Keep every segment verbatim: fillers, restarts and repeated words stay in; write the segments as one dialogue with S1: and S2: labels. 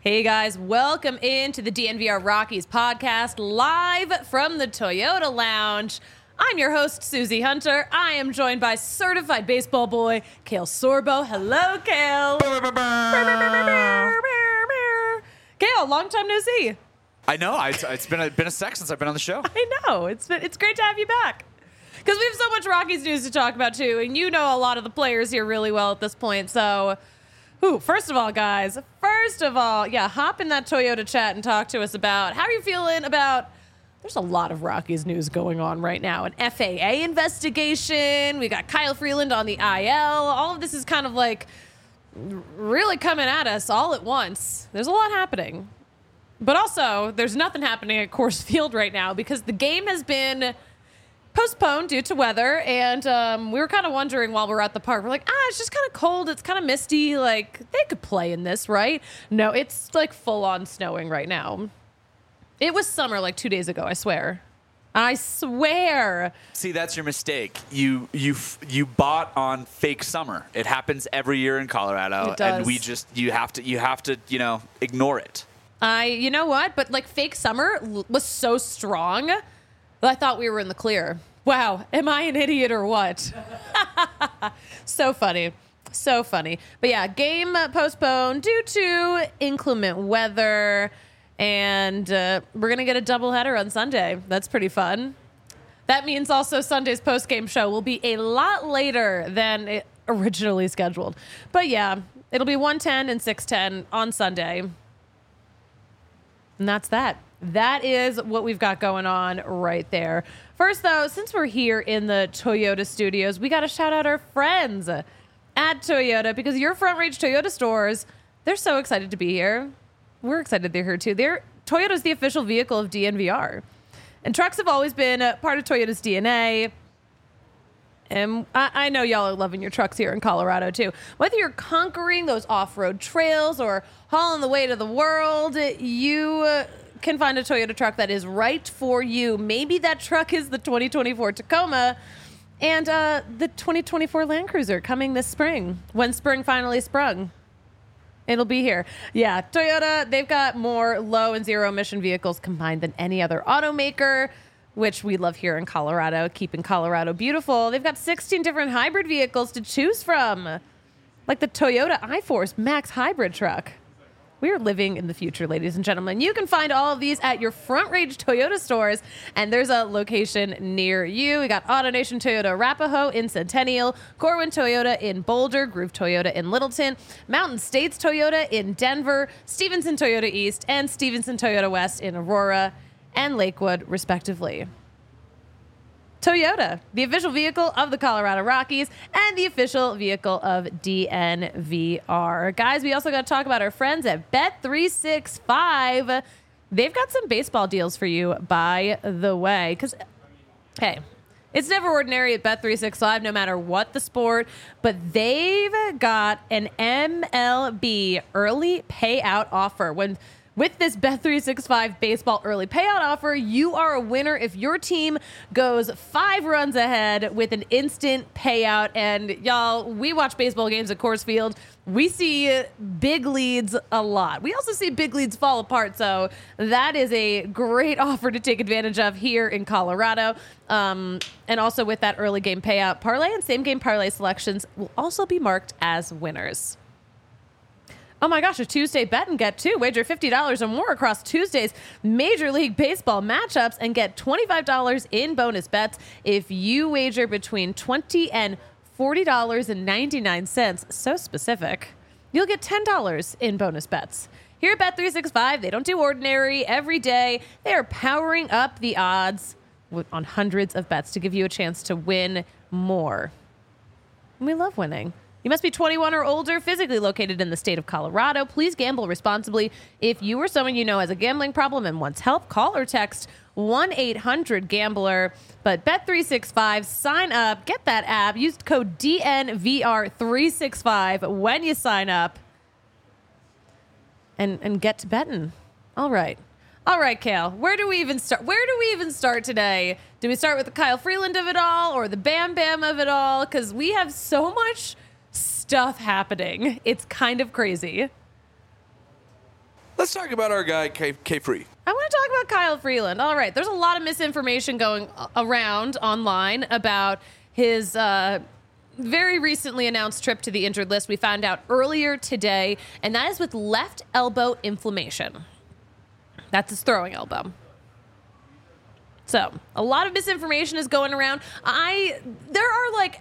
S1: Hey guys, welcome into the D N V R Rockies podcast live from the Toyota Lounge. I'm your host, Susie Hunter. I am joined by certified baseball boy, Cale Sorbo. Hello, Cale. Cale, long time no see.
S2: I know. I, it's been a, been a sec since I've been on the show.
S1: I know. It's been, it's great to have you back. Because we have so much Rockies news to talk about, too. And you know a lot of the players here really well at this point. So, whew, first of all, guys, first of all, yeah, hop in that Toyota chat and talk to us about how are you feeling about... There's a lot of Rockies news going on right now. An F A A investigation. We got Kyle Freeland on the I L. All of this is kind of like really coming at us all at once. There's a lot happening. But also, there's nothing happening at Coors Field right now because the game has been postponed due to weather. And um, we were kind of wondering while we were at the park, we're like, ah, it's just kind of cold. It's kind of misty. Like, they could play in this, right? No, it's like full on snowing right now. It was summer like two days ago, I swear. I swear.
S2: See, that's your mistake. You you you bought on fake summer. It happens every year in Colorado,
S1: It does.
S2: and we just you have to you have to you know ignore it.
S1: I, you know what? But like fake summer l- was so strong that I thought we were in the clear. Wow, am I an idiot or what? So funny. So funny. But yeah, game postponed due to inclement weather. And uh, we're going to get a doubleheader on Sunday. That's pretty fun. That means also Sunday's postgame show will be a lot later than it originally scheduled. But yeah, it'll be one ten and six ten on Sunday. And that's that. That is what we've got going on right there. First, though, since we're here in the Toyota studios, we got to shout out our friends at Toyota because your Front Range Toyota stores, they're so excited to be here. We're excited they're here, too. They're, Toyota's the official vehicle of D N V R. And trucks have always been a part of Toyota's D N A. And I, I know y'all are loving your trucks here in Colorado, too. Whether you're conquering those off-road trails or hauling the way to the world, you uh, can find a Toyota truck that is right for you. Maybe that truck is the twenty twenty-four Tacoma and uh, the twenty twenty-four Land Cruiser coming this spring, when spring finally sprung. It'll be here. Yeah, Toyota, they've got more low and zero emission vehicles combined than any other automaker, which we love here in Colorado, keeping Colorado beautiful. They've got sixteen different hybrid vehicles to choose from, like the Toyota iForce Max hybrid truck. We are living in the future, ladies and gentlemen. You can find all of these at your Front Range Toyota stores, and there's a location near you. We got AutoNation Toyota Arapahoe in Centennial, Corwin Toyota in Boulder, Groove Toyota in Littleton, Mountain States Toyota in Denver, Stevenson Toyota East, and Stevenson Toyota West in Aurora and Lakewood, respectively. Toyota, the official vehicle of the Colorado Rockies and the official vehicle of D N V R. Guys, we also got to talk about our friends at Bet three sixty-five. They've got some baseball deals for you, by the way. Because, hey, it's never ordinary at Bet three sixty-five, no matter what the sport. But they've got an M L B early payout offer. When With this Bet three sixty-five baseball early payout offer, you are a winner if your team goes five runs ahead with an instant payout. And y'all, we watch baseball games at Coors Field. We see big leads a lot. We also see big leads fall apart. So that is a great offer to take advantage of here in Colorado. Um, and also with that early game payout, parlay and same game parlay selections will also be marked as winners. Oh my gosh, a Tuesday bet and get two. Wager fifty dollars or more across Tuesday's Major League Baseball matchups and get twenty-five dollars in bonus bets if you wager between twenty dollars and forty dollars and ninety-nine cents. So specific. You'll get ten dollars in bonus bets. Here at Bet three sixty-five, they don't do ordinary every day. They are powering up the odds with, on hundreds of bets to give you a chance to win more. And we love winning. You must be twenty-one or older, physically located in the state of Colorado. Please gamble responsibly. If you or someone you know has a gambling problem and wants help, call or text one eight hundred gambler. But Bet three sixty-five, sign up, get that app, use code D N V R three sixty-five when you sign up, and, and get to betting. All right. All right, Cale, where do we even start? Where do we even start today? Do we start with the Kyle Freeland of it all or the Bam Bam of it all? Because we have so much stuff happening. It's kind of crazy.
S2: Let's talk about our guy, K, K Free.
S1: I want to talk about Kyle Freeland. All right, there's a lot of misinformation going around online about his uh, very recently announced trip to the injured list. We found out earlier today, and that is with left elbow inflammation. That's his throwing elbow. So, a lot of misinformation is going around. I, there are like,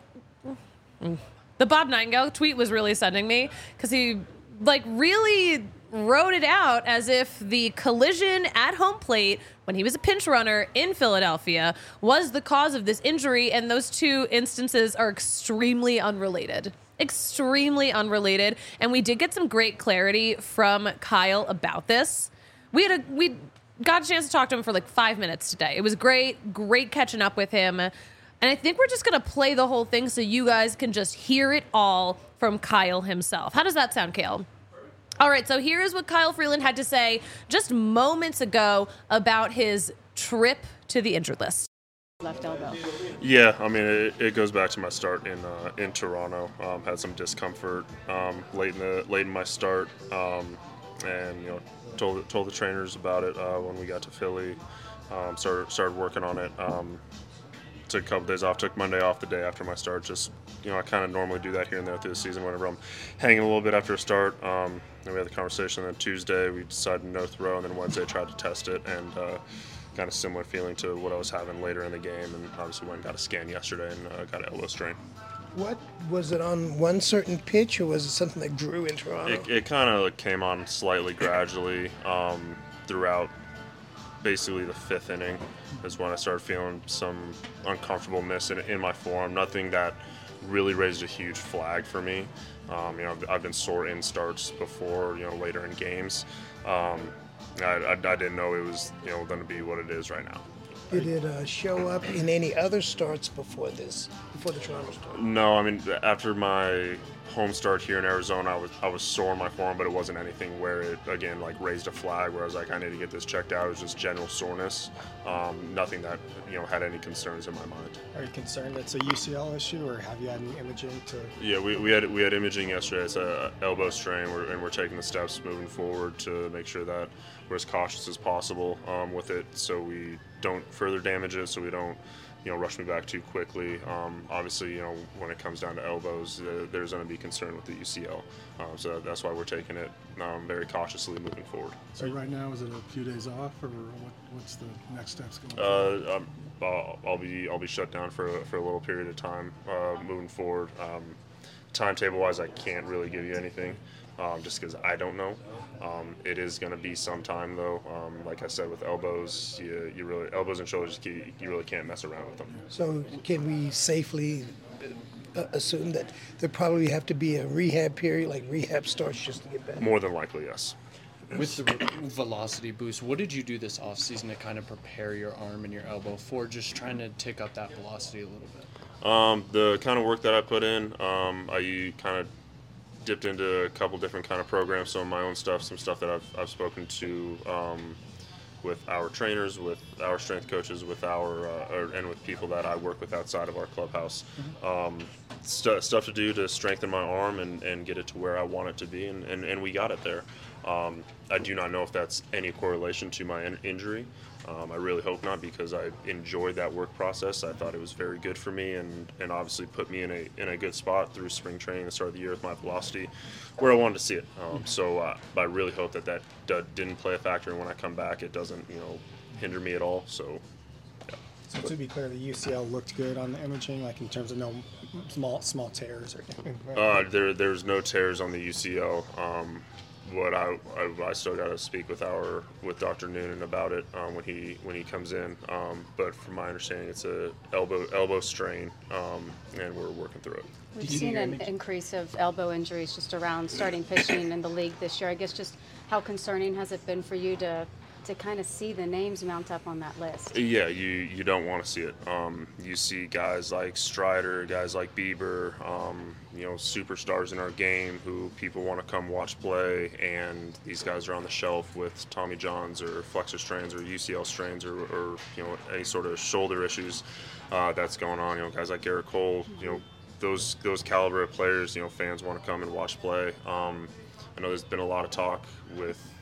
S1: the Bob Nightingale tweet was really sending me because he like really wrote it out as if the collision at home plate when he was a pinch runner in Philadelphia was the cause of this injury, and those two instances are extremely unrelated. Extremely unrelated, and we did get some great clarity from Kyle about this. We had a we got a chance to talk to him for like five minutes today. It was great, great catching up with him, and I think we're just gonna play the whole thing so you guys can just hear it all from Kyle himself. How does that sound, Kale? All right, so here is what Kyle Freeland had to say just moments ago about his trip to the injured list.
S3: Left elbow.
S4: Yeah, I mean, it, it goes back to my start in uh, in Toronto. Um, had some discomfort um, late in the late in my start, um, and you know, told told the trainers about it uh, when we got to Philly. Um, started started working on it. Um, took a couple days off. Took Monday off the day after my start. Just you know, I kind of normally do that here and there through the season whenever I'm hanging a little bit after a start. Um, and we had the conversation. And then Tuesday we decided no throw, and then Wednesday tried to test it, and uh, kind of similar feeling to what I was having later in the game. And obviously went and got a scan yesterday and uh, got an elbow strain.
S5: What was it on one certain pitch, or was it something that grew in Toronto?
S4: It, it kind of came on slightly gradually um, throughout. Basically, the fifth inning is when I started feeling some uncomfortableness in, in my form. Nothing that really raised a huge flag for me. Um, you know, I've, I've been sore in starts before. You know, later in games. Um, I, I, I didn't know it was you know going to be what it is right now.
S5: Did it uh, show up in any other starts before this, before the Toronto start?
S4: No, I mean after my home start here in Arizona, I was I was sore in my form, but it wasn't anything where it again like raised a flag where I was like I need to get this checked out. It was just general soreness, um, nothing that you know had any concerns in my mind.
S6: Are you concerned it's a U C L issue, or have you had any imaging to?
S4: Yeah, we, we had we had imaging yesterday. It's a elbow strain, we're, and we're taking the steps moving forward to make sure that we're as cautious as possible um, with it, so we don't further damage it, so we don't. You know, rush me back too quickly. Um, obviously, you know, when it comes down to elbows, uh, there's going to be concern with the U C L. Um, so that's why we're taking it um, very cautiously moving forward.
S7: So right now, is it a few days off, or what, what's the next steps going?
S4: Uh, um, I'll, I'll be I'll be shut down for for a little period of time uh, moving forward. Um, timetable wise, I can't really give you anything. Um, just because I don't know. Um, it is going to be some time though. Um, like I said, with elbows, you, you really elbows and shoulders, you, you really can't mess around with them.
S5: So can we safely uh, assume that there probably have to be a rehab period, like rehab starts just to get better?
S4: More than likely, yes.
S8: With the velocity boost, what did you do this offseason to kind of prepare your arm and your elbow for just trying to tick up that velocity a little bit?
S4: Um, the kind of work that I put in, um, I kind of dipped into a couple different kind of programs, some of my own stuff, some stuff that I've, I've spoken to um, with our trainers, with our strength coaches, with our uh, or, and with people that I work with outside of our clubhouse. Mm-hmm. Um, st- stuff to do to strengthen my arm and, and get it to where I want it to be, and, and, and we got it there. Um, I do not know if that's any correlation to my in- injury. Um, I really hope not, because I enjoyed that work process. I thought it was very good for me, and, and obviously put me in a in a good spot through spring training, the start of the year with my velocity, where I wanted to see it. Um, so uh, I really hope that that d- didn't play a factor, and when I come back, it doesn't you know hinder me at all. So. Yeah.
S6: So to be clear, the U C L looked good on the imaging, like in terms of no small small tears or anything.
S4: Uh, there there's no tears on the U C L. Um, What I, I I still got to speak with our with Doctor Noonan about it um, when he when he comes in. Um, but from my understanding, it's a elbow elbow strain, um, and we're working through it.
S3: We've seen an increase of elbow injuries just around starting pitching in the league this year. I guess just how concerning has it been for you to to kind of see the names mount up on that list?
S4: Yeah, you you don't want to see it. Um, you see guys like Strider, guys like Bieber, um, you know, superstars in our game who people want to come watch play, and these guys are on the shelf with Tommy Johns or flexor strains or U C L strains or, or you know any sort of shoulder issues uh, that's going on. You know, guys like Garrett Cole, you know, those those caliber of players, you know, fans want to come and watch play. Um, I know there's been a lot of talk with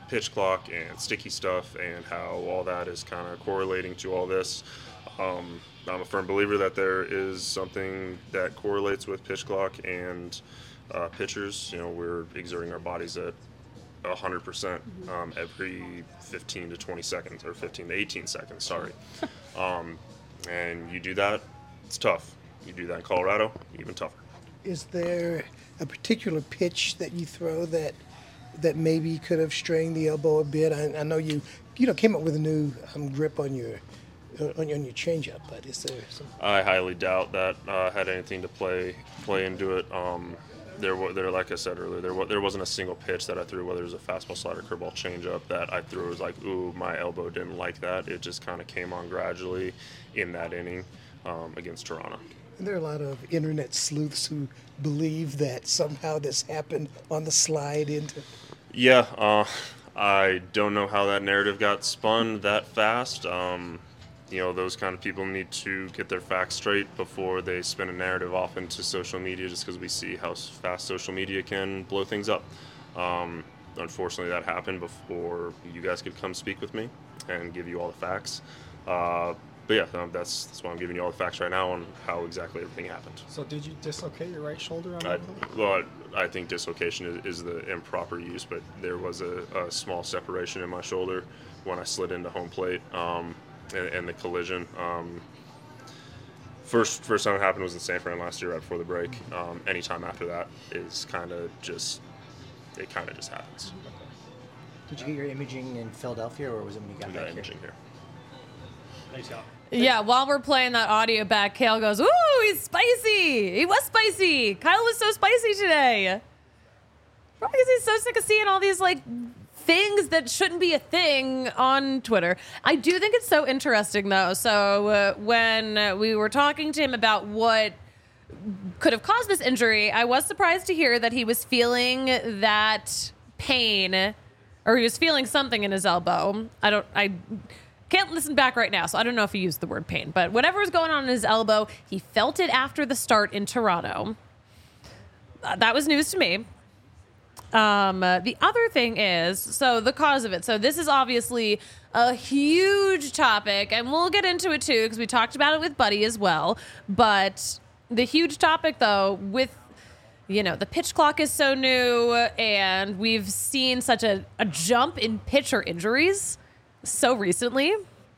S4: pitch clock and sticky stuff and how all that is kind of correlating to all this. Um, I'm a firm believer that there is something that correlates with pitch clock and uh, pitchers. You know, we're exerting our bodies at one hundred percent um, every fifteen to twenty seconds, or fifteen to eighteen seconds, sorry. Um, and you do that, it's tough. You do that in Colorado, even tougher.
S5: Is there a particular pitch that you throw that that maybe could have strained the elbow a bit? I, I know you you know came up with a new um, grip on your uh, on your, on your changeup, but is there some?
S4: I highly doubt that uh, had anything to play play into it. Um, there, wa- there, like I said earlier, there wa- there wasn't a single pitch that I threw, whether it was a fastball, slider, curveball, changeup, that I threw. It was like, ooh, my elbow didn't like that. It just kind of came on gradually in that inning um, against Toronto.
S5: And there are a lot of internet sleuths who believe that somehow this happened on the slide into.
S4: Yeah, uh, I don't know how that narrative got spun that fast. Um, you know, those kind of people need to get their facts straight before they spin a narrative off into social media, just because we see how fast social media can blow things up. Um, unfortunately, that happened before you guys could come speak with me and give you all the facts. Uh, but yeah, um, that's that's why I'm giving you all the facts right now on how exactly everything happened.
S6: So did you dislocate your right shoulder on
S4: I,
S6: that?
S4: well, I, I think dislocation is, is the improper use, but there was a, a small separation in my shoulder when I slid into home plate um, and, and the collision. Um, first first time it happened was in San Fran last year right before the break. Um, anytime after that is kind of just, it kind of just happens.
S9: Did you get your imaging in Philadelphia, or was it when you got
S4: We
S9: back
S4: got
S9: here?
S4: imaging here.
S6: Nice job.
S1: Yeah, while we're playing that audio back, Kale goes, "Ooh, he's spicy. He was spicy. Kyle was so spicy today." Probably because he's so sick of seeing all these like things that shouldn't be a thing on Twitter. I do think it's so interesting though. So uh, when uh, we were talking to him about what could have caused this injury, I was surprised to hear that he was feeling that pain, or he was feeling something in his elbow. I don't. I. Can't listen back right now, so I don't know if he used the word pain. But whatever was going on in his elbow, he felt it after the start in Toronto. Uh, that was news to me. Um, uh, the other thing is, so the cause of it. So this is obviously a huge topic, and we'll get into it too, because we talked about it with Buddy as well. But the huge topic, though, with, you know, the pitch clock is so new, and we've seen such a, a jump in pitcher injuries so recently,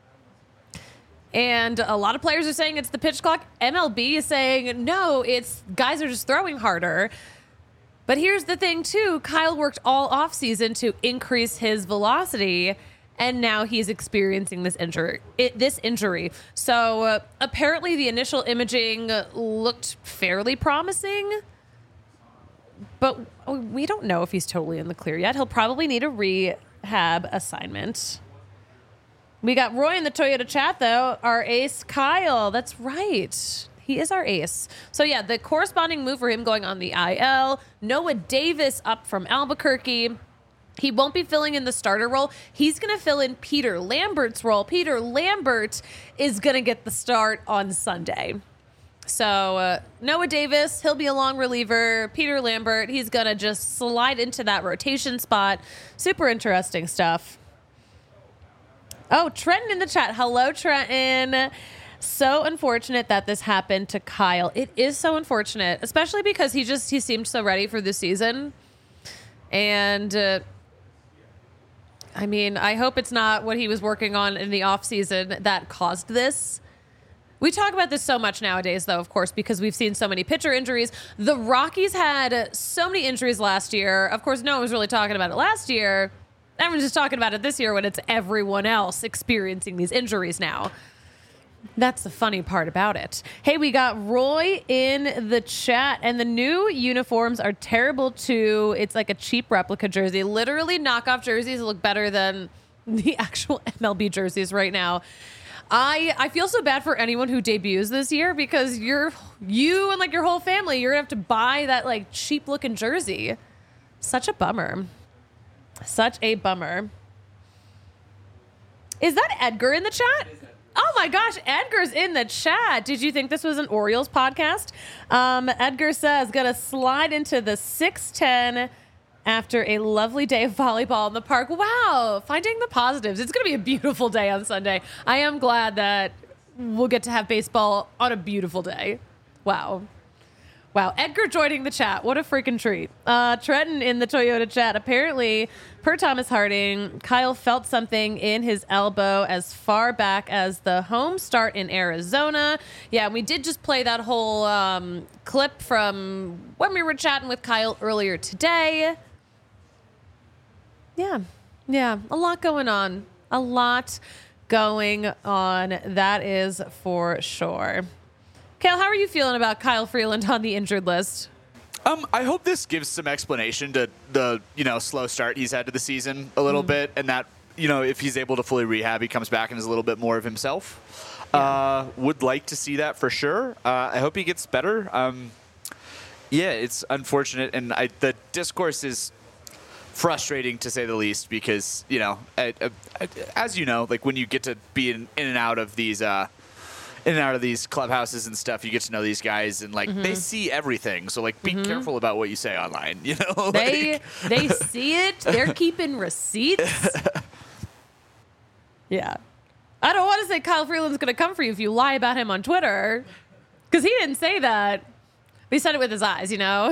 S1: and a lot of players are saying it's the pitch clock. M L B is saying no, it's guys are just throwing harder. But here's the thing too, Kyle worked all off season to increase his velocity, and now he's experiencing this injury it, this injury so uh, apparently the initial imaging looked fairly promising, but we don't know if he's totally in the clear yet. He'll probably need a rehab assignment. We got Roy in the Toyota chat, though. Our ace, Kyle. That's right. He is our ace. So, yeah, the corresponding move for him going on the I L. Noah Davis up from Albuquerque. He won't be filling in the starter role. He's going to fill in Peter Lambert's role. Peter Lambert is going to get the start on Sunday. So, uh, Noah Davis, he'll be a long reliever. Peter Lambert, he's going to just slide into that rotation spot. Super interesting stuff. Oh, Trenton in the chat. Hello, Trenton. So unfortunate that this happened to Kyle. It is so unfortunate, especially because he just he seemed so ready for this season. And uh, I mean, I hope it's not what he was working on in the off season that caused this. We talk about this so much nowadays, though, of course, because we've seen so many pitcher injuries. The Rockies had so many injuries last year. Of course, no one was really talking about it last year. Everyone's just talking about it this year when it's everyone else experiencing these injuries now. That's the funny part about it. Hey, we got Roy in the chat, and the new uniforms are terrible too. It's like a cheap replica jersey. Literally, knockoff jerseys look better than the actual M L B jerseys right now. I I feel so bad for anyone who debuts this year, because you're you and like your whole family, you're gonna have to buy that like cheap looking jersey. Such a bummer. Such a bummer. Is that Edgar in the chat? Oh my gosh, Edgar's in the chat. Did you think this was an Orioles podcast? Um, Edgar says, gonna slide into the six ten after a lovely day of volleyball in the park. Wow, finding the positives. It's going to be a beautiful day on Sunday. I am glad that we'll get to have baseball on a beautiful day. Wow. Wow. Edgar joining the chat. What a freaking treat. Uh, Trenton in the Toyota chat. Apparently, per Thomas Harding, Kyle felt something in his elbow as far back as the home start in Arizona. Yeah, we did just play that whole um, clip from when we were chatting with Kyle earlier today. Yeah. Yeah. A lot going on. A lot going on. That is for sure. Kale, how are you feeling about Kyle Freeland on the injured list?
S2: Um, I hope this gives some explanation to the, you know, slow start he's had to the season a little mm. bit, and that, you know, if he's able to fully rehab, he comes back and is a little bit more of himself. Yeah. Uh, would like to see that for sure. Uh, I hope he gets better. Um, yeah, it's unfortunate, and I, the discourse is frustrating to say the least because, you know, I, I, as you know, like when you get to be in, in and out of these uh, in and out of these clubhouses and stuff, you get to know these guys, and like mm-hmm. they see everything. So like, be mm-hmm. careful about what you say online. You know,
S1: they
S2: like,
S1: they see it. They're keeping receipts. Yeah, I don't want to say Kyle Freeland's going to come for you if you lie about him on Twitter, because he didn't say that. He said it with his eyes. You know.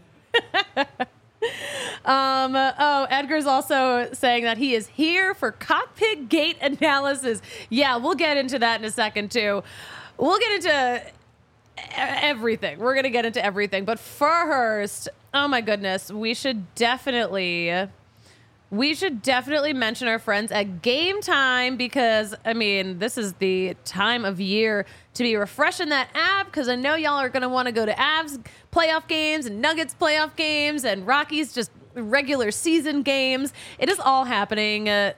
S1: Um, oh, Edgar's also saying that he is here for cockpit gate analysis. Yeah, we'll get into that in a second, too. We'll get into everything. We're going to get into everything. But first, oh, my goodness, we should definitely... We should definitely mention our friends at Game Time because, I mean, this is the time of year to be refreshing that app because I know y'all are going to want to go to Avs playoff games and Nuggets playoff games and Rockies just regular season games. It is all happening. Uh,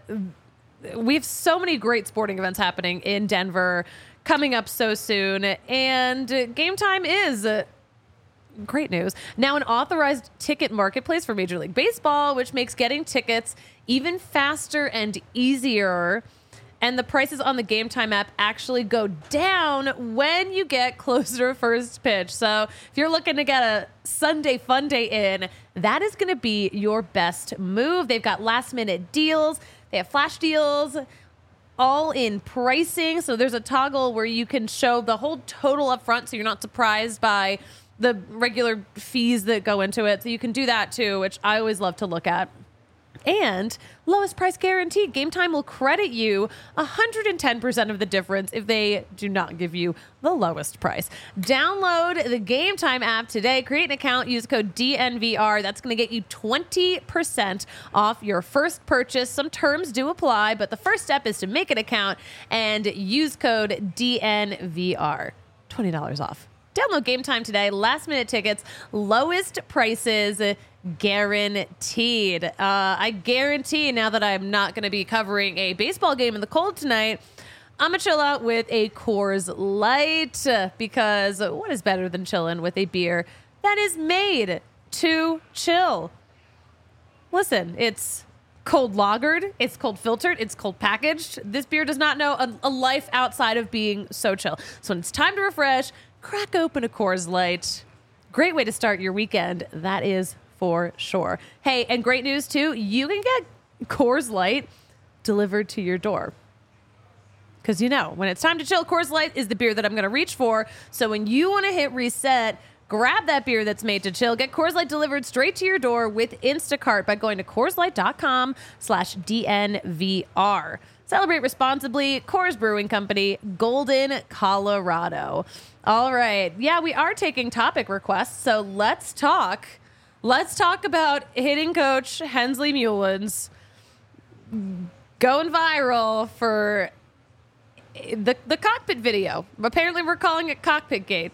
S1: we have so many great sporting events happening in Denver coming up so soon, and Game Time is... Uh, Great news. Now an authorized ticket marketplace for Major League Baseball, which makes getting tickets even faster and easier. And the prices on the Game Time app actually go down when you get closer to first pitch. So if you're looking to get a Sunday fun day in, that is going to be your best move. They've got last minute deals. They have flash deals. All in pricing. So there's a toggle where you can show the whole total up front so you're not surprised by the regular fees that go into it. So you can do that too, which I always love to look at. And lowest price guaranteed. Game Time will credit you one hundred ten percent of the difference if they do not give you the lowest price. Download the Game Time app today. Create an account. Use code D N V R. That's going to get you twenty percent off your first purchase. Some terms do apply, but the first step is to make an account and use code D N V R. twenty dollars off. Download Game Time today. Last minute tickets, lowest prices guaranteed. Uh, I guarantee now that I'm not going to be covering a baseball game in the cold tonight, I'm going to chill out with a Coors Light because what is better than chilling with a beer that is made to chill? Listen, it's cold lagered, it's cold filtered, it's cold packaged. This beer does not know a, a life outside of being so chill. So when it's time to refresh, crack open a Coors Light. Great way to start your weekend, that is for sure. Hey, and great news too, you can get Coors Light delivered to your door. Because you know, when it's time to chill, Coors Light is the beer that I'm going to reach for. So when you want to hit reset, grab that beer that's made to chill. Get Coors Light delivered straight to your door with Instacart by going to CoorsLight.com slash DNVR. Celebrate responsibly. Coors Brewing Company, Golden, Colorado. All right. Yeah, we are taking topic requests, so let's talk. Let's talk about hitting coach Hensley Mullins going viral for the, the cockpit video. Apparently, we're calling it Cockpit Gate.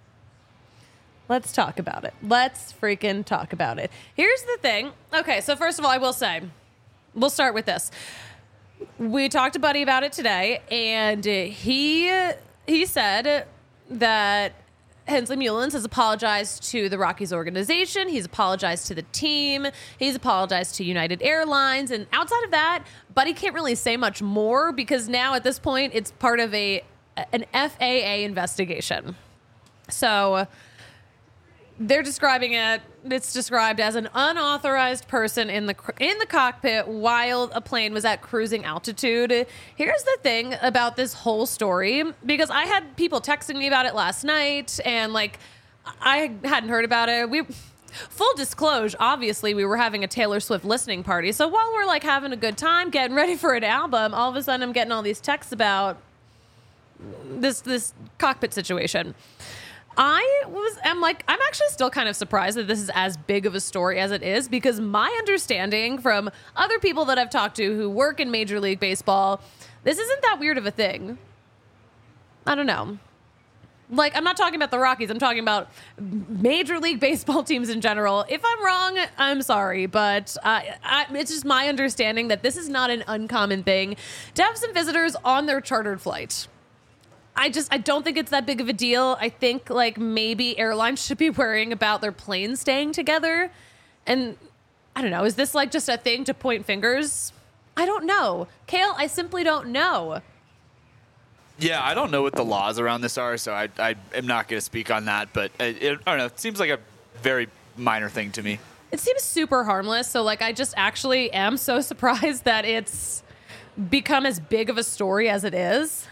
S1: Let's talk about it. Let's freaking talk about it. Here's the thing. Okay, so first of all, I will say, we'll start with this. We talked to Buddy about it today, and he he said that Hensley Mullins has apologized to the Rockies organization. He's apologized to the team. He's apologized to United Airlines. And outside of that, Buddy can't really say much more because now at this point, it's part of a an F A A investigation. So they're describing it. It's described as an unauthorized person in the cr- in the cockpit while a plane was at cruising altitude. Here's the thing about this whole story, because I had people texting me about it last night, and like I hadn't heard about it. We full disclosure, obviously we were having a Taylor Swift listening party, so while we're like having a good time, getting ready for an album, all of a sudden I'm getting all these texts about this this cockpit situation. I was, I'm like, I'm actually still kind of surprised that this is as big of a story as it is, because my understanding from other people that I've talked to who work in Major League Baseball, this isn't that weird of a thing. I don't know. Like, I'm not talking about the Rockies. I'm talking about Major League Baseball teams in general. If I'm wrong, I'm sorry, but uh, I, it's just my understanding that this is not an uncommon thing to have some visitors on their chartered flight. I just, I don't think it's that big of a deal. I think, like, maybe airlines should be worrying about their planes staying together. And, I don't know, is this, like, just a thing to point fingers? I don't know. Kale, I simply don't know.
S2: Yeah, I don't know what the laws around this are, so I, I am not going to speak on that. But, it, it, I don't know, it seems like a very minor thing to me.
S1: It seems super harmless, so, like, I just actually am so surprised that it's become as big of a story as it is.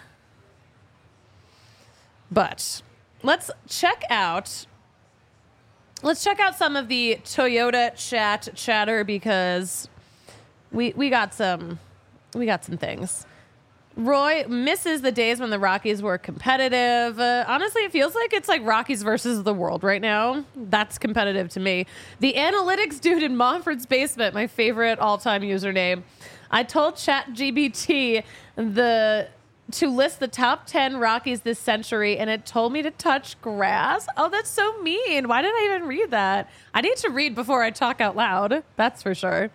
S1: But let's check out let's check out some of the Toyota chat chatter, because we we got some we got some things. Roy misses the days when the Rockies were competitive. Uh, honestly, it feels like it's like Rockies versus the world right now. That's competitive to me. The analytics dude in Montford's basement, my favorite all-time username. I told ChatGPT the to list the top ten Rockies this century, and it told me to touch grass. Oh, that's so mean. Why did I even read that? I need to read before I talk out loud. That's for sure.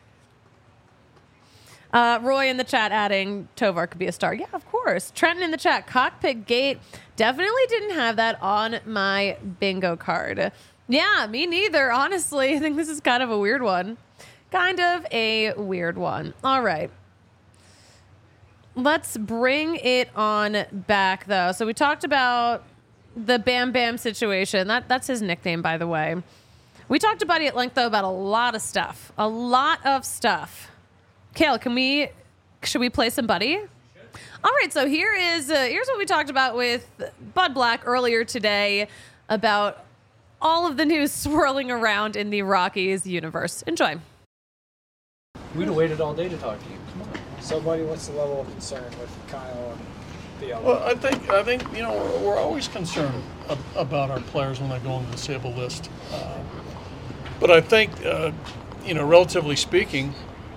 S1: Uh, Roy in the chat adding Tovar could be a star. Yeah, of course. Trenton in the chat, Cockpit Gate. Definitely didn't have that on my bingo card. Yeah, me neither, honestly. I think this is kind of a weird one. Kind of a weird one. All right. Let's bring it on back, though. So we talked about the Bam Bam situation. That That's his nickname, by the way. We talked to Buddy at length, though, about a lot of stuff. A lot of stuff. Kale, can we, should we play some Buddy? All right, so here is, uh, here's what we talked about with Bud Black earlier today about all of the news swirling around in the Rockies universe. Enjoy.
S10: We'd have waited all day to talk to you. Come on.
S6: So, buddy, what's the level of concern with Kyle and the other?
S11: Well, I think I think you know we're, we're always concerned ab- about our players when they go on the disabled list, uh, but I think uh, you know, relatively speaking,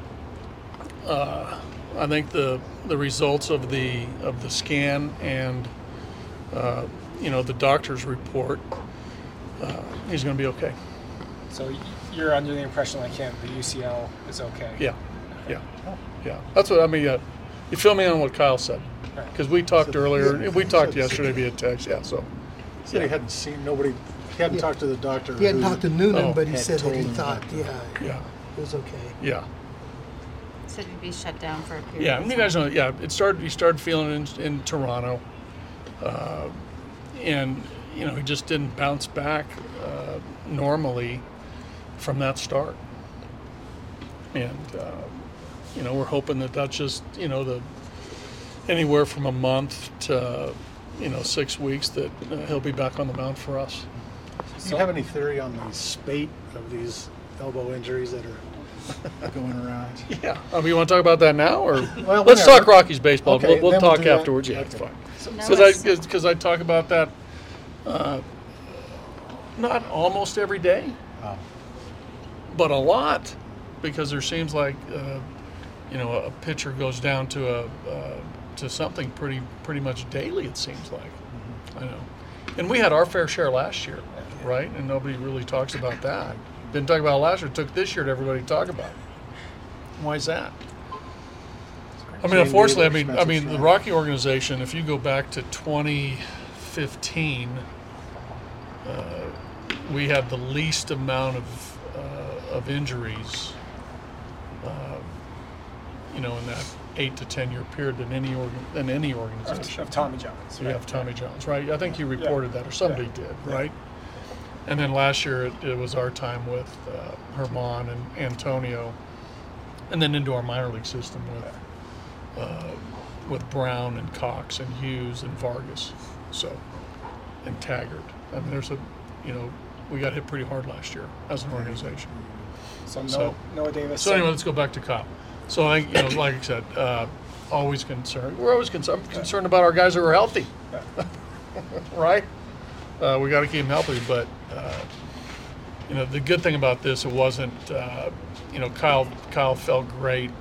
S11: uh, I think the the results of the of the scan and uh, you know, the doctor's report, uh, he's going to be okay.
S6: So you're under the impression, like him, the U C L is okay?
S11: Yeah, yeah, yeah. That's what I mean. Uh, you fill me in on what Kyle said, because we talked earlier. We talked yesterday via text. Yeah, so.
S7: He said he hadn't seen nobody. He hadn't
S5: Yeah.
S7: talked to the doctor.
S5: He hadn't
S7: who-
S5: talked to Noonan,
S11: Oh.
S5: but he
S7: had
S5: said that
S7: told
S5: he
S7: him
S5: thought,
S7: that.
S5: yeah,
S11: Yeah,
S5: it was okay.
S11: yeah,
S3: Said it'd be shut down for a period.
S11: yeah.
S3: of
S11: And you
S3: time.
S11: guys know, yeah. It started. He started feeling it in, in Toronto, uh, and you know, he just didn't bounce back uh, normally from that start. And uh, you know, we're hoping that that's just, you know, the anywhere from a month to, you know, six weeks that uh, he'll be back on the mound for us.
S7: Do you have any theory on the spate of these elbow injuries that are going around?
S11: Yeah. Um, you want to talk about that now, or
S7: Well,
S11: let's
S7: whenever.
S11: talk Rockies baseball.
S7: Okay,
S11: we'll we'll
S7: then we'll
S11: talk
S7: do that.
S11: afterwards. Yeah, it's
S7: Okay.
S11: fine.
S3: No,
S11: Because I
S3: it's-
S11: because I talk about that uh, not almost every day,
S7: Oh.
S11: but a lot, because there seems like uh, you know, a pitcher goes down to a uh, to something pretty pretty much daily. It seems like. I know, and we had our fair share last year, right? And nobody really talks about that. Didn't talk about it last year. It took this year to everybody talk about it. Why is that? I mean,
S7: Jane
S11: unfortunately, I
S7: Weaver,
S11: mean, I
S7: Spencer
S11: mean, the
S7: Strider.
S11: Rocky organization. If you go back to twenty fifteen, uh, we had the least amount of uh, of injuries. Uh, you know, in that eight to ten year period than any organ, than any organization.
S6: Of Tommy John's.
S11: You have Tommy John's, right? I think you reported that, or somebody
S6: Yeah.
S11: did,
S6: Yeah.
S11: right? And then last year it, it was our time with uh, Herman and Antonio, and then into our minor league system with uh, with Brown and Cox and Hughes and Vargas, so and Taggart. I mean, there's a, you know, we got hit pretty hard last year as an organization.
S6: So, no,
S11: So-
S6: Noah Davis.
S11: So anyway, let's go back to Kyle. So I, you know, like I said, uh, always concerned. We're always concerned. I'm concerned about our guys who are healthy, right? Uh, we got to keep them healthy. But uh, you know, the good thing about this, it wasn't. Uh, you know, Kyle. Kyle felt great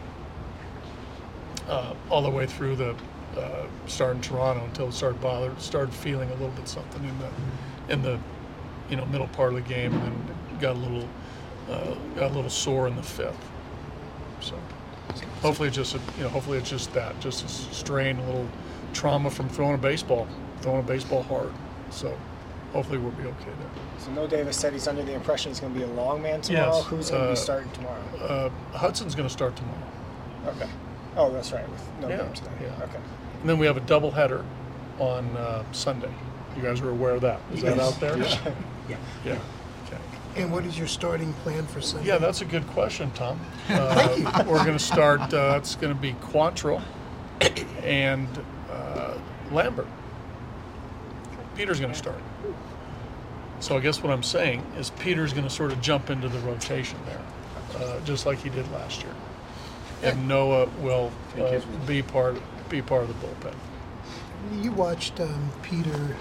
S11: uh, all the way through the uh, start in Toronto until it started bother, started feeling a little bit something in the in the you know middle part of the game, and then got a little uh, got a little sore in the fifth. So. Hopefully, it's just a, you know, hopefully it's just that, just a strain, a little trauma from throwing a baseball, throwing a baseball hard. So, hopefully, we'll be okay there.
S6: So Noah Davis said he's under the impression he's going to be a long man tomorrow.
S11: Yes.
S6: Who's going to
S11: Uh,
S6: be starting tomorrow?
S11: Uh, Hudson's going to start tomorrow,
S6: Okay. Oh, that's right. With no
S11: Yeah,
S6: game today.
S11: yeah.
S6: Okay.
S11: and then we have a doubleheader on uh, Sunday. You guys are aware of that? Is that
S5: Yes.
S11: out there?
S9: Yeah.
S11: Yeah. Okay.
S5: And what is your starting plan for Sunday?
S11: Yeah, that's a good question, Tom. Uh, we're going to start. Uh, it's going to be Quantrill and uh, Lambert. Peter's going to start. So I guess what I'm saying is Peter's going to sort of jump into the rotation there, uh, just like he did last year, and Noah will uh, be part be part of the bullpen.
S5: You watched um, Peter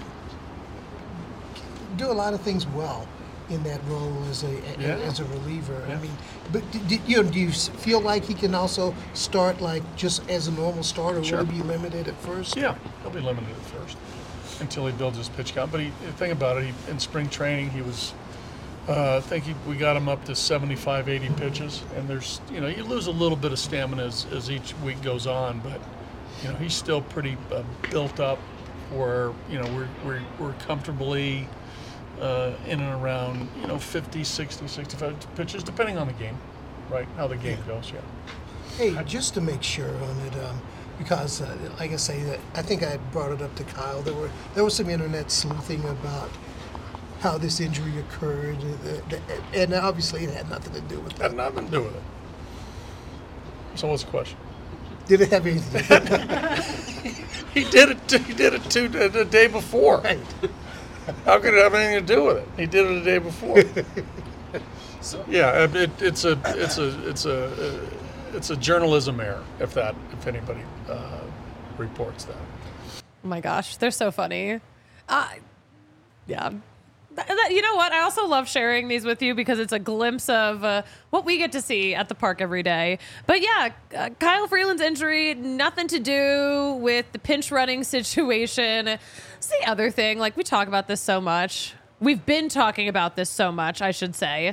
S5: do a lot of things well in that role as a, a
S11: Yeah.
S5: as a reliever.
S11: Yeah.
S5: I mean, but d- d- you know, do you s- feel like he can also start like just as a normal starter?
S11: Sure.
S5: Will he be limited at first?
S11: Yeah, he'll be limited at first until he builds his pitch count. But he, the thing about it, he, in spring training, he was, uh, I think he, we got him up to seventy-five, eighty pitches. And there's, you know, you lose a little bit of stamina as, as each week goes on, but, you know, he's still pretty uh, built up where, you know, we're, we're, we're comfortably uh, in and around, you know, fifty, sixty, sixty-five pitches, depending on the game, right? How the game goes, yeah.
S5: Hey, just to make sure on it, um, because uh, like I say, that I think I brought it up to Kyle. There were there was some internet sleuthing about how this injury occurred, uh, th- and obviously it had nothing to do with
S11: Had
S5: that.
S11: nothing to do with it. So what's the question?
S5: Did it have anything to do with it?
S11: He did it. T- he did it two the day before.
S5: Right.
S11: How could it have anything to do with it? He did it the day before. So yeah, it, it, it's a it's a it's a uh, it's a journalism error if that if anybody uh, reports that.
S1: Oh my gosh, they're so funny. Uh, yeah. Th- th- You know what? I also love sharing these with you because it's a glimpse of uh, what we get to see at the park every day. But yeah, uh, Kyle Freeland's injury, nothing to do with the pinch running situation. It's the other thing. Like, we talk about this so much. We've been talking about this so much, I should say.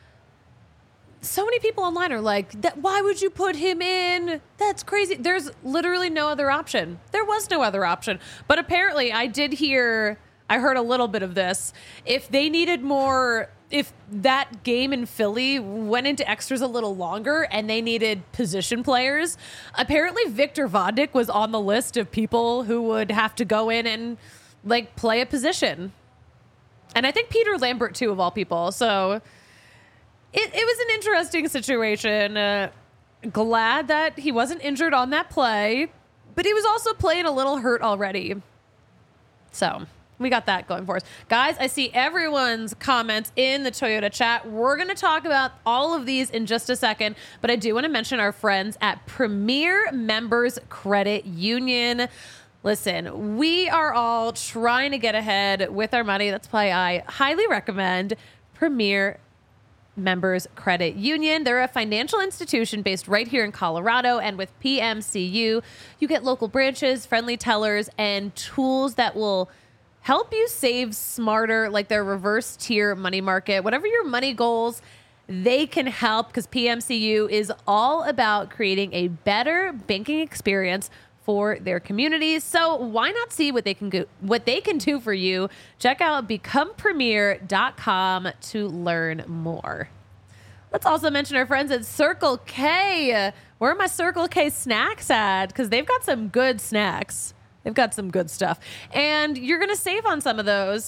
S1: So many people online are like, "That why would you put him in? That's crazy." There's literally no other option. There was no other option. But apparently I did hear, I heard a little bit of this. If they needed more, if that game in Philly went into extras a little longer and they needed position players, apparently Victor Vodnik was on the list of people who would have to go in and like play a position. And I think Peter Lambert too, of all people. So It, it was an interesting situation. Uh, glad that he wasn't injured on that play, but he was also playing a little hurt already. So we got that going for us. Guys, I see everyone's comments in the Toyota chat. We're going to talk about all of these in just a second, but I do want to mention our friends at Premier Members Credit Union. Listen, we are all trying to get ahead with our money. That's why I highly recommend Premier Members Credit Union. They're a financial institution based right here in Colorado, and with P M C U, you get local branches, friendly tellers, and tools that will help you save smarter, like their reverse tier money market. Whatever your money goals, they can help, because P M C U is all about creating a better banking experience for their communities. So why not see what they can go, what they can do for you? Check out become premier dot com to learn more. Let's also mention our friends at Circle K. Where are my Circle K snacks at? Because they've got some good snacks. They've got some good stuff. And you're going to save on some of those.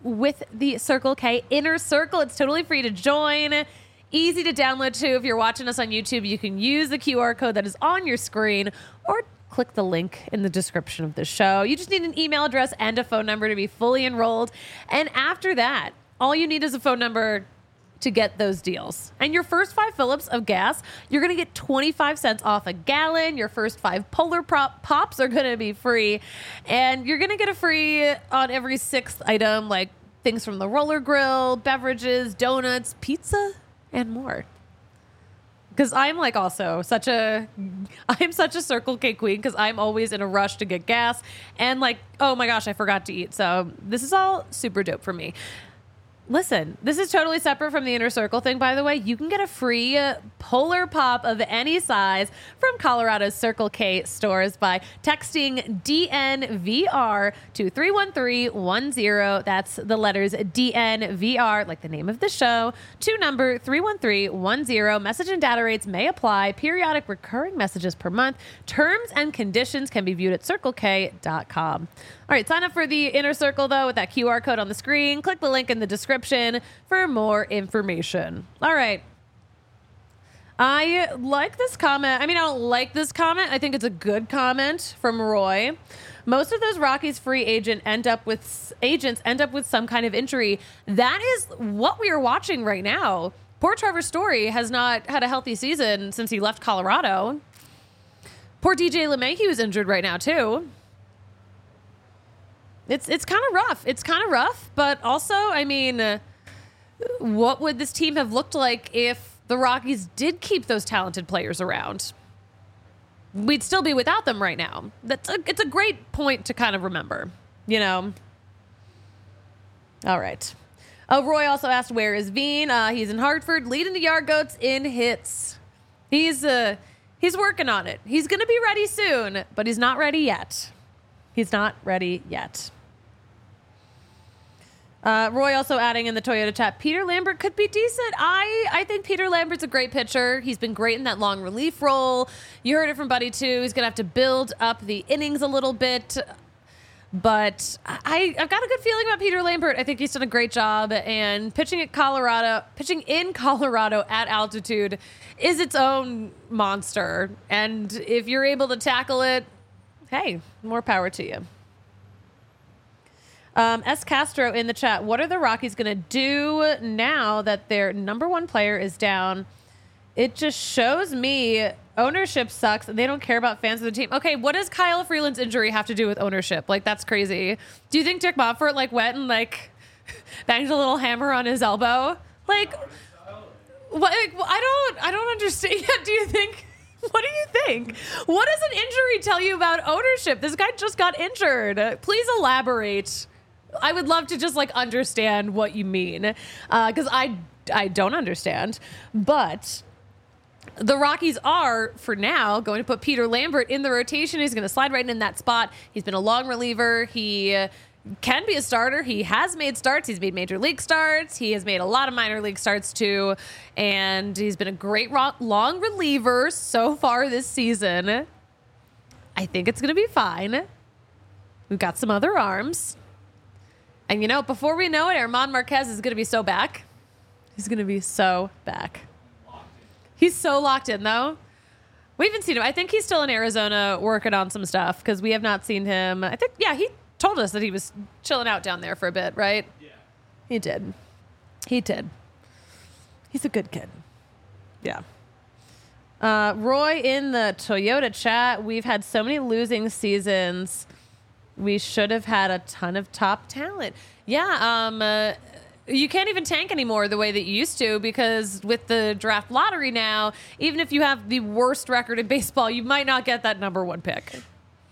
S1: with the Circle K Inner Circle. It's totally free to join. Easy to download too. If you're watching us on YouTube, you can use the Q R code that is on your screen or click the link in the description of the show. You just need an email address and a phone number to be fully enrolled. And after that, all you need is a phone number to get those deals. And your first five fill-ups of gas, you're going to get twenty-five cents off a gallon. Your first five Polar Pop Pops are going to be free. And you're going to get a free on every sixth item, like things from the roller grill, beverages, donuts, pizza, and more. Because I'm like also such a, I'm such a Circle K queen because I'm always in a rush to get gas. And like, oh my gosh, I forgot to eat. So this is all super dope for me. Listen, this is totally separate from the Inner Circle thing, by the way. You can get a free uh, Polar Pop of any size from Colorado's Circle K stores by texting D N V R to three one three one zero. That's the letters D N V R, like the name of the show, to number three one three one zero. Message and data rates may apply. Periodic recurring messages per month. Terms and conditions can be viewed at circle k dot com. All right, sign up for the Inner Circle, though, with that Q R code on the screen. Click the link in the description for more information. All right. I like this comment. I mean, I don't like this comment. I think it's a good comment from Roy. Most of those Rockies free agent end up with agents end up with some kind of injury. That is what we are watching right now. Poor Trevor Story has not had a healthy season since he left Colorado. Poor D J LeMahieu is injured right now, too. It's it's kind of rough. It's kind of rough, but also, I mean, uh, what would this team have looked like if the Rockies did keep those talented players around? We'd still be without them right now. That's a, it's a great point to kind of remember, you know? All right. Oh, Roy also asked, where is Veen? Uh, he's in Hartford, leading the Yard Goats in hits. He's uh, he's working on it. He's going to be ready soon, but he's not ready yet. He's not ready yet. Uh, Roy also adding in the Toyota chat, Peter Lambert could be decent. I, I think Peter Lambert's a great pitcher. He's been great in that long relief role. You heard it from Buddy, too. He's going to have to build up the innings a little bit. But I, I've got a good feeling about Peter Lambert. I think he's done a great job. And pitching at Colorado, pitching in Colorado at altitude is its own monster. And if you're able to tackle it, hey, more power to you. Um, S. Castro in the chat, what are the Rockies going to do now that their number one player is down? It just shows me ownership sucks and they don't care about fans of the team. Okay, what does Kyle Freeland's injury have to do with ownership? Like, that's crazy. Do you think Dick Monfort, like, went and, like, banged a little hammer on his elbow? Like, what? Like, I don't, I don't understand. Do you think... What do you think? What does an injury tell you about ownership? This guy just got injured. Please elaborate. I would love to just like understand what you mean, because uh, I I don't understand. But the Rockies are, for now, going to put Peter Lambert in the rotation. He's going to slide right in that spot. He's been a long reliever. He uh, can be a starter. He has made starts. He's made major league starts. He has made a lot of minor league starts too. And he's been a great ro- long reliever so far this season. I think it's going to be fine. We've got some other arms. And, you know, before we know it, Herman Marquez is going to be so back. He's going to be so back. He's so locked in, though. We haven't seen him. I think he's still in Arizona working on some stuff because we have not seen him. I think, yeah, he told us that he was chilling out down there for a bit, right? Yeah. He did. He did. He's a good kid. Yeah. Uh, Roy in the Toyota chat, we've had so many losing seasons. We should have had a ton of top talent. Yeah, um, uh, you can't even tank anymore the way that you used to because with the draft lottery now, even if you have the worst record in baseball, you might not get that number one pick.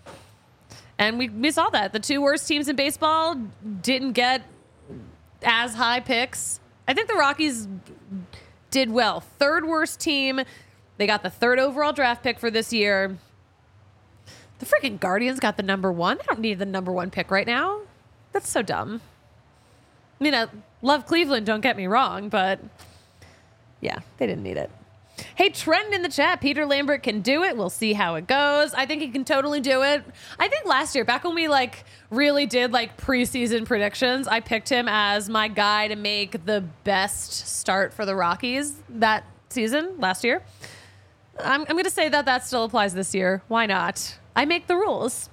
S1: And we, we saw that. The two worst teams in baseball didn't get as high picks. I think the Rockies did well. Third worst team. They got the third overall draft pick for this year. The freaking Guardians got the number one. They don't need the number one pick right now. That's so dumb. I mean, I love Cleveland, don't get me wrong, but yeah, they didn't need it. Hey, Trent in the chat. Peter Lambert can do it. We'll see how it goes. I think he can totally do it. I think last year, back when we like really did like preseason predictions, I picked him as my guy to make the best start for the Rockies that season last year. I'm, I'm going to say that that still applies this year. Why not? I make the rules.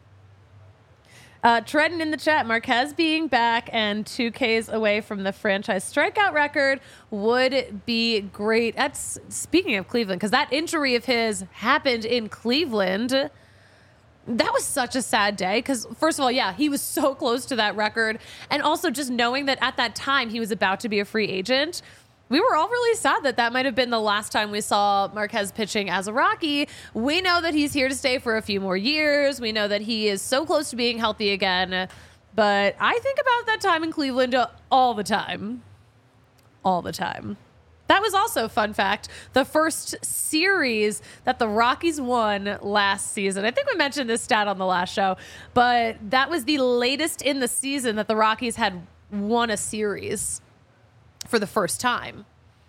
S1: Uh, Trenton in the chat, Marquez being back and two Ks away from the franchise strikeout record would be great. That's speaking of Cleveland, because that injury of his happened in Cleveland. That was such a sad day because, first of all, yeah, he was so close to that record. And also just knowing that at that time he was about to be a free agent, we were all really sad that that might have been the last time we saw Marquez pitching as a Rocky. We know that he's here to stay for a few more years. We know that he is so close to being healthy again. But I think about that time in Cleveland all the time. All the time. That was also, fun fact, the first series that the Rockies won last season. I think we mentioned this stat on the last show, but that was the latest in the season that the Rockies had won a series for the first time.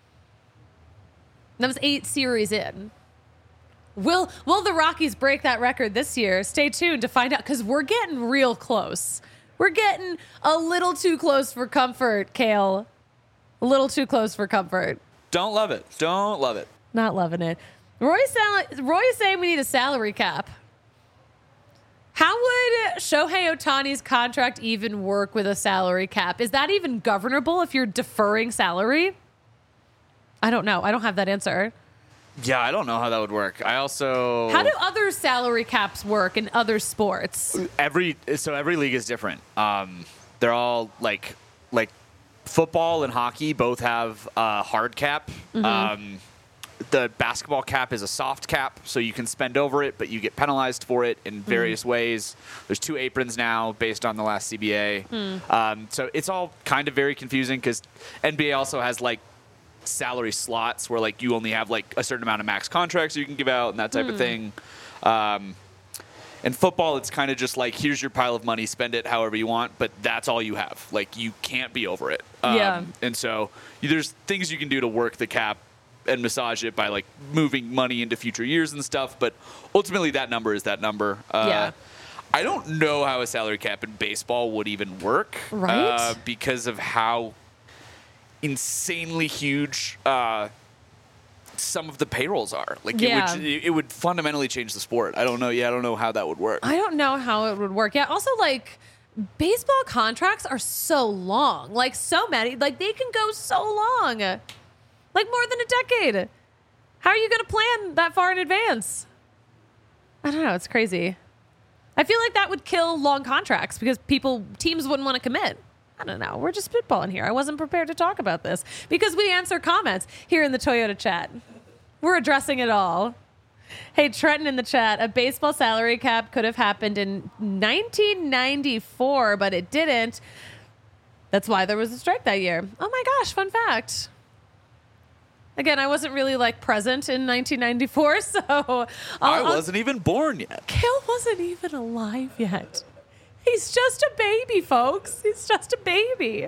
S1: That was eight series in. Will will the Rockies break that record this year? Stay tuned to find out, because we're getting real close. We're getting a little too close for comfort, Kale. A little too close for comfort.
S2: Don't love it. Don't love it.
S1: Not loving it. Roy, sal- Roy is saying we need a salary cap. How would Shohei Ohtani's contract even work with a salary cap? Is that even governable if you're deferring salary? I don't know. I don't have that answer.
S2: Yeah, I don't know how that would work. I also...
S1: How do other salary caps work in other sports?
S2: Every so every league is different. Um, they're all like like football and hockey both have a hard cap.
S1: Mm-hmm.
S2: Um, the basketball cap is a soft cap, so you can spend over it, but you get penalized for it in various mm. ways. There's two aprons now based on the last C B A. Mm. Um, so it's all kind of very confusing because N B A also has like salary slots where like you only have like a certain amount of max contracts you can give out and that type mm. of thing. Um, in football, it's kind of just like, here's your pile of money, spend it however you want, but that's all you have. Like, you can't be over it. Um,
S1: yeah.
S2: And so there's things you can do to work the cap and massage it by like moving money into future years and stuff, but ultimately that number is that number. Uh,
S1: yeah.
S2: I don't know how a salary cap in baseball would even work,
S1: right?
S2: Uh, because of how insanely huge uh, some of the payrolls are. Like
S1: yeah.
S2: it would, it would fundamentally change the sport. I don't know. Yeah, I don't know how that would work.
S1: I don't know how it would work. Yeah. Also, like, baseball contracts are so long. Like, so many. Like, they can go so long. Like more than a decade. How are you going to plan that far in advance? I don't know. It's crazy. I feel like that would kill long contracts because people, teams wouldn't want to commit. I don't know. We're just spitballing here. I wasn't prepared to talk about this because we answer comments here in the Toyota chat. We're addressing it all. Hey, Trenton in the chat. A baseball salary cap could have happened in nineteen ninety-four, but it didn't. That's why there was a strike that year. Oh my gosh, fun fact. Again, I wasn't really like present in nineteen ninety-four, so I'll,
S2: I wasn't I'll, even born yet.
S1: Kale wasn't even alive yet. He's just a baby, folks. He's just a baby.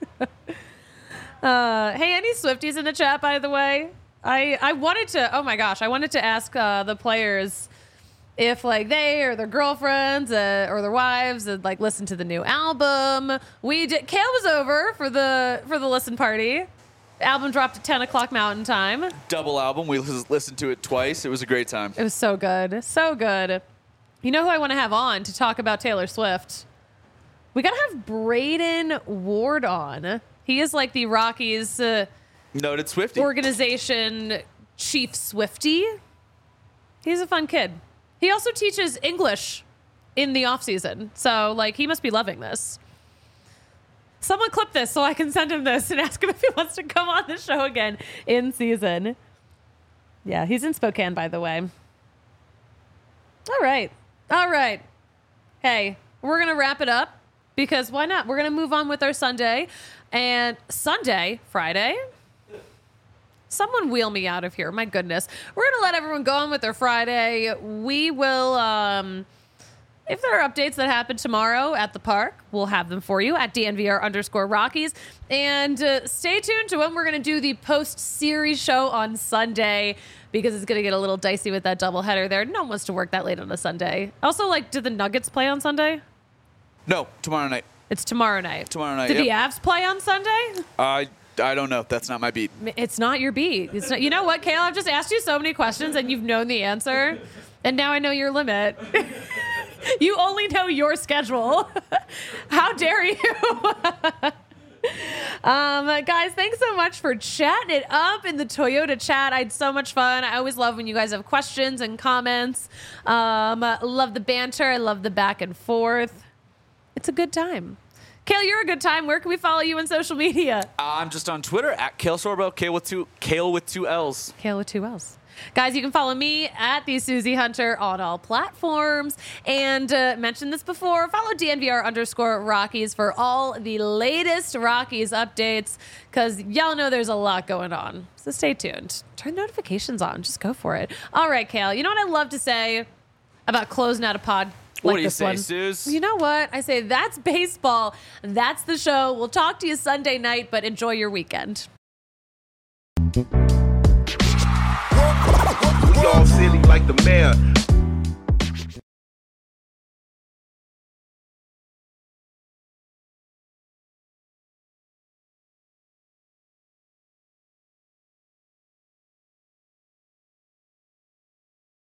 S1: uh, hey, any Swifties in the chat, by the way? I, I wanted to, oh my gosh, I wanted to ask uh, the players if like they or their girlfriends uh, or their wives had like listened to the new album. We did. Kale was over for the for the listen party. The album dropped at ten o'clock Mountain Time.
S2: Double album. We listened to it twice. It was a great time.
S1: It was so good. So good. You know who I want to have on to talk about Taylor Swift? We got to have Braden Ward on. He is like the Rockies uh,
S2: noted Swiftie
S1: organization chief Swiftie. He's a fun kid. He also teaches English in the off season. So like he must be loving this. Someone clip this so I can send him this and ask him if he wants to come on the show again in season. Yeah, he's in Spokane, by the way. All right. All right. Hey, we're going to wrap it up because why not? We're going to move on with our Sunday. And Sunday, Friday. Someone wheel me out of here. My goodness. We're going to let everyone go on with their Friday. We will... Um, if there are updates that happen tomorrow at the park, we'll have them for you at D N V R underscore Rockies. And uh, stay tuned to when we're going to do the post-series show on Sunday, because it's going to get a little dicey with that doubleheader there. No one wants to work that late on a Sunday. Also, like, did the Nuggets play on Sunday?
S2: No, tomorrow night.
S1: It's tomorrow night.
S2: Tomorrow night,
S1: Did
S2: yep.
S1: the Avs play on Sunday?
S2: I I don't know. That's not my beat.
S1: It's not your beat. It's not, you know what, Kale? I've just asked you so many questions and you've known the answer. And now I know your limit. You only know your schedule. How dare you? Um, guys, thanks so much for chatting it up in the Toyota chat. I had so much fun. I always love when you guys have questions and comments. Um, love the banter. I love the back and forth. It's a good time. Kale, you're a good time. Where can we follow you on social media?
S2: I'm just on Twitter at Kale Sorbo, Kale with two Kale with two L's.
S1: Kale with two L's. Guys, you can follow me at the Susie Hunter on all platforms. And uh, mentioned this before, follow D N V R underscore Rockies for all the latest Rockies updates, because y'all know there's a lot going on. So stay tuned. Turn notifications on. Just go for it. All right, Kale. You know what I love to say about closing out a pod?
S2: What
S1: Like
S2: do you
S1: this
S2: say,
S1: one.
S2: Suze?
S1: You know what? I say that's baseball. That's the show. We'll talk to you Sunday night, but enjoy your weekend.
S12: We all silly like the mayor.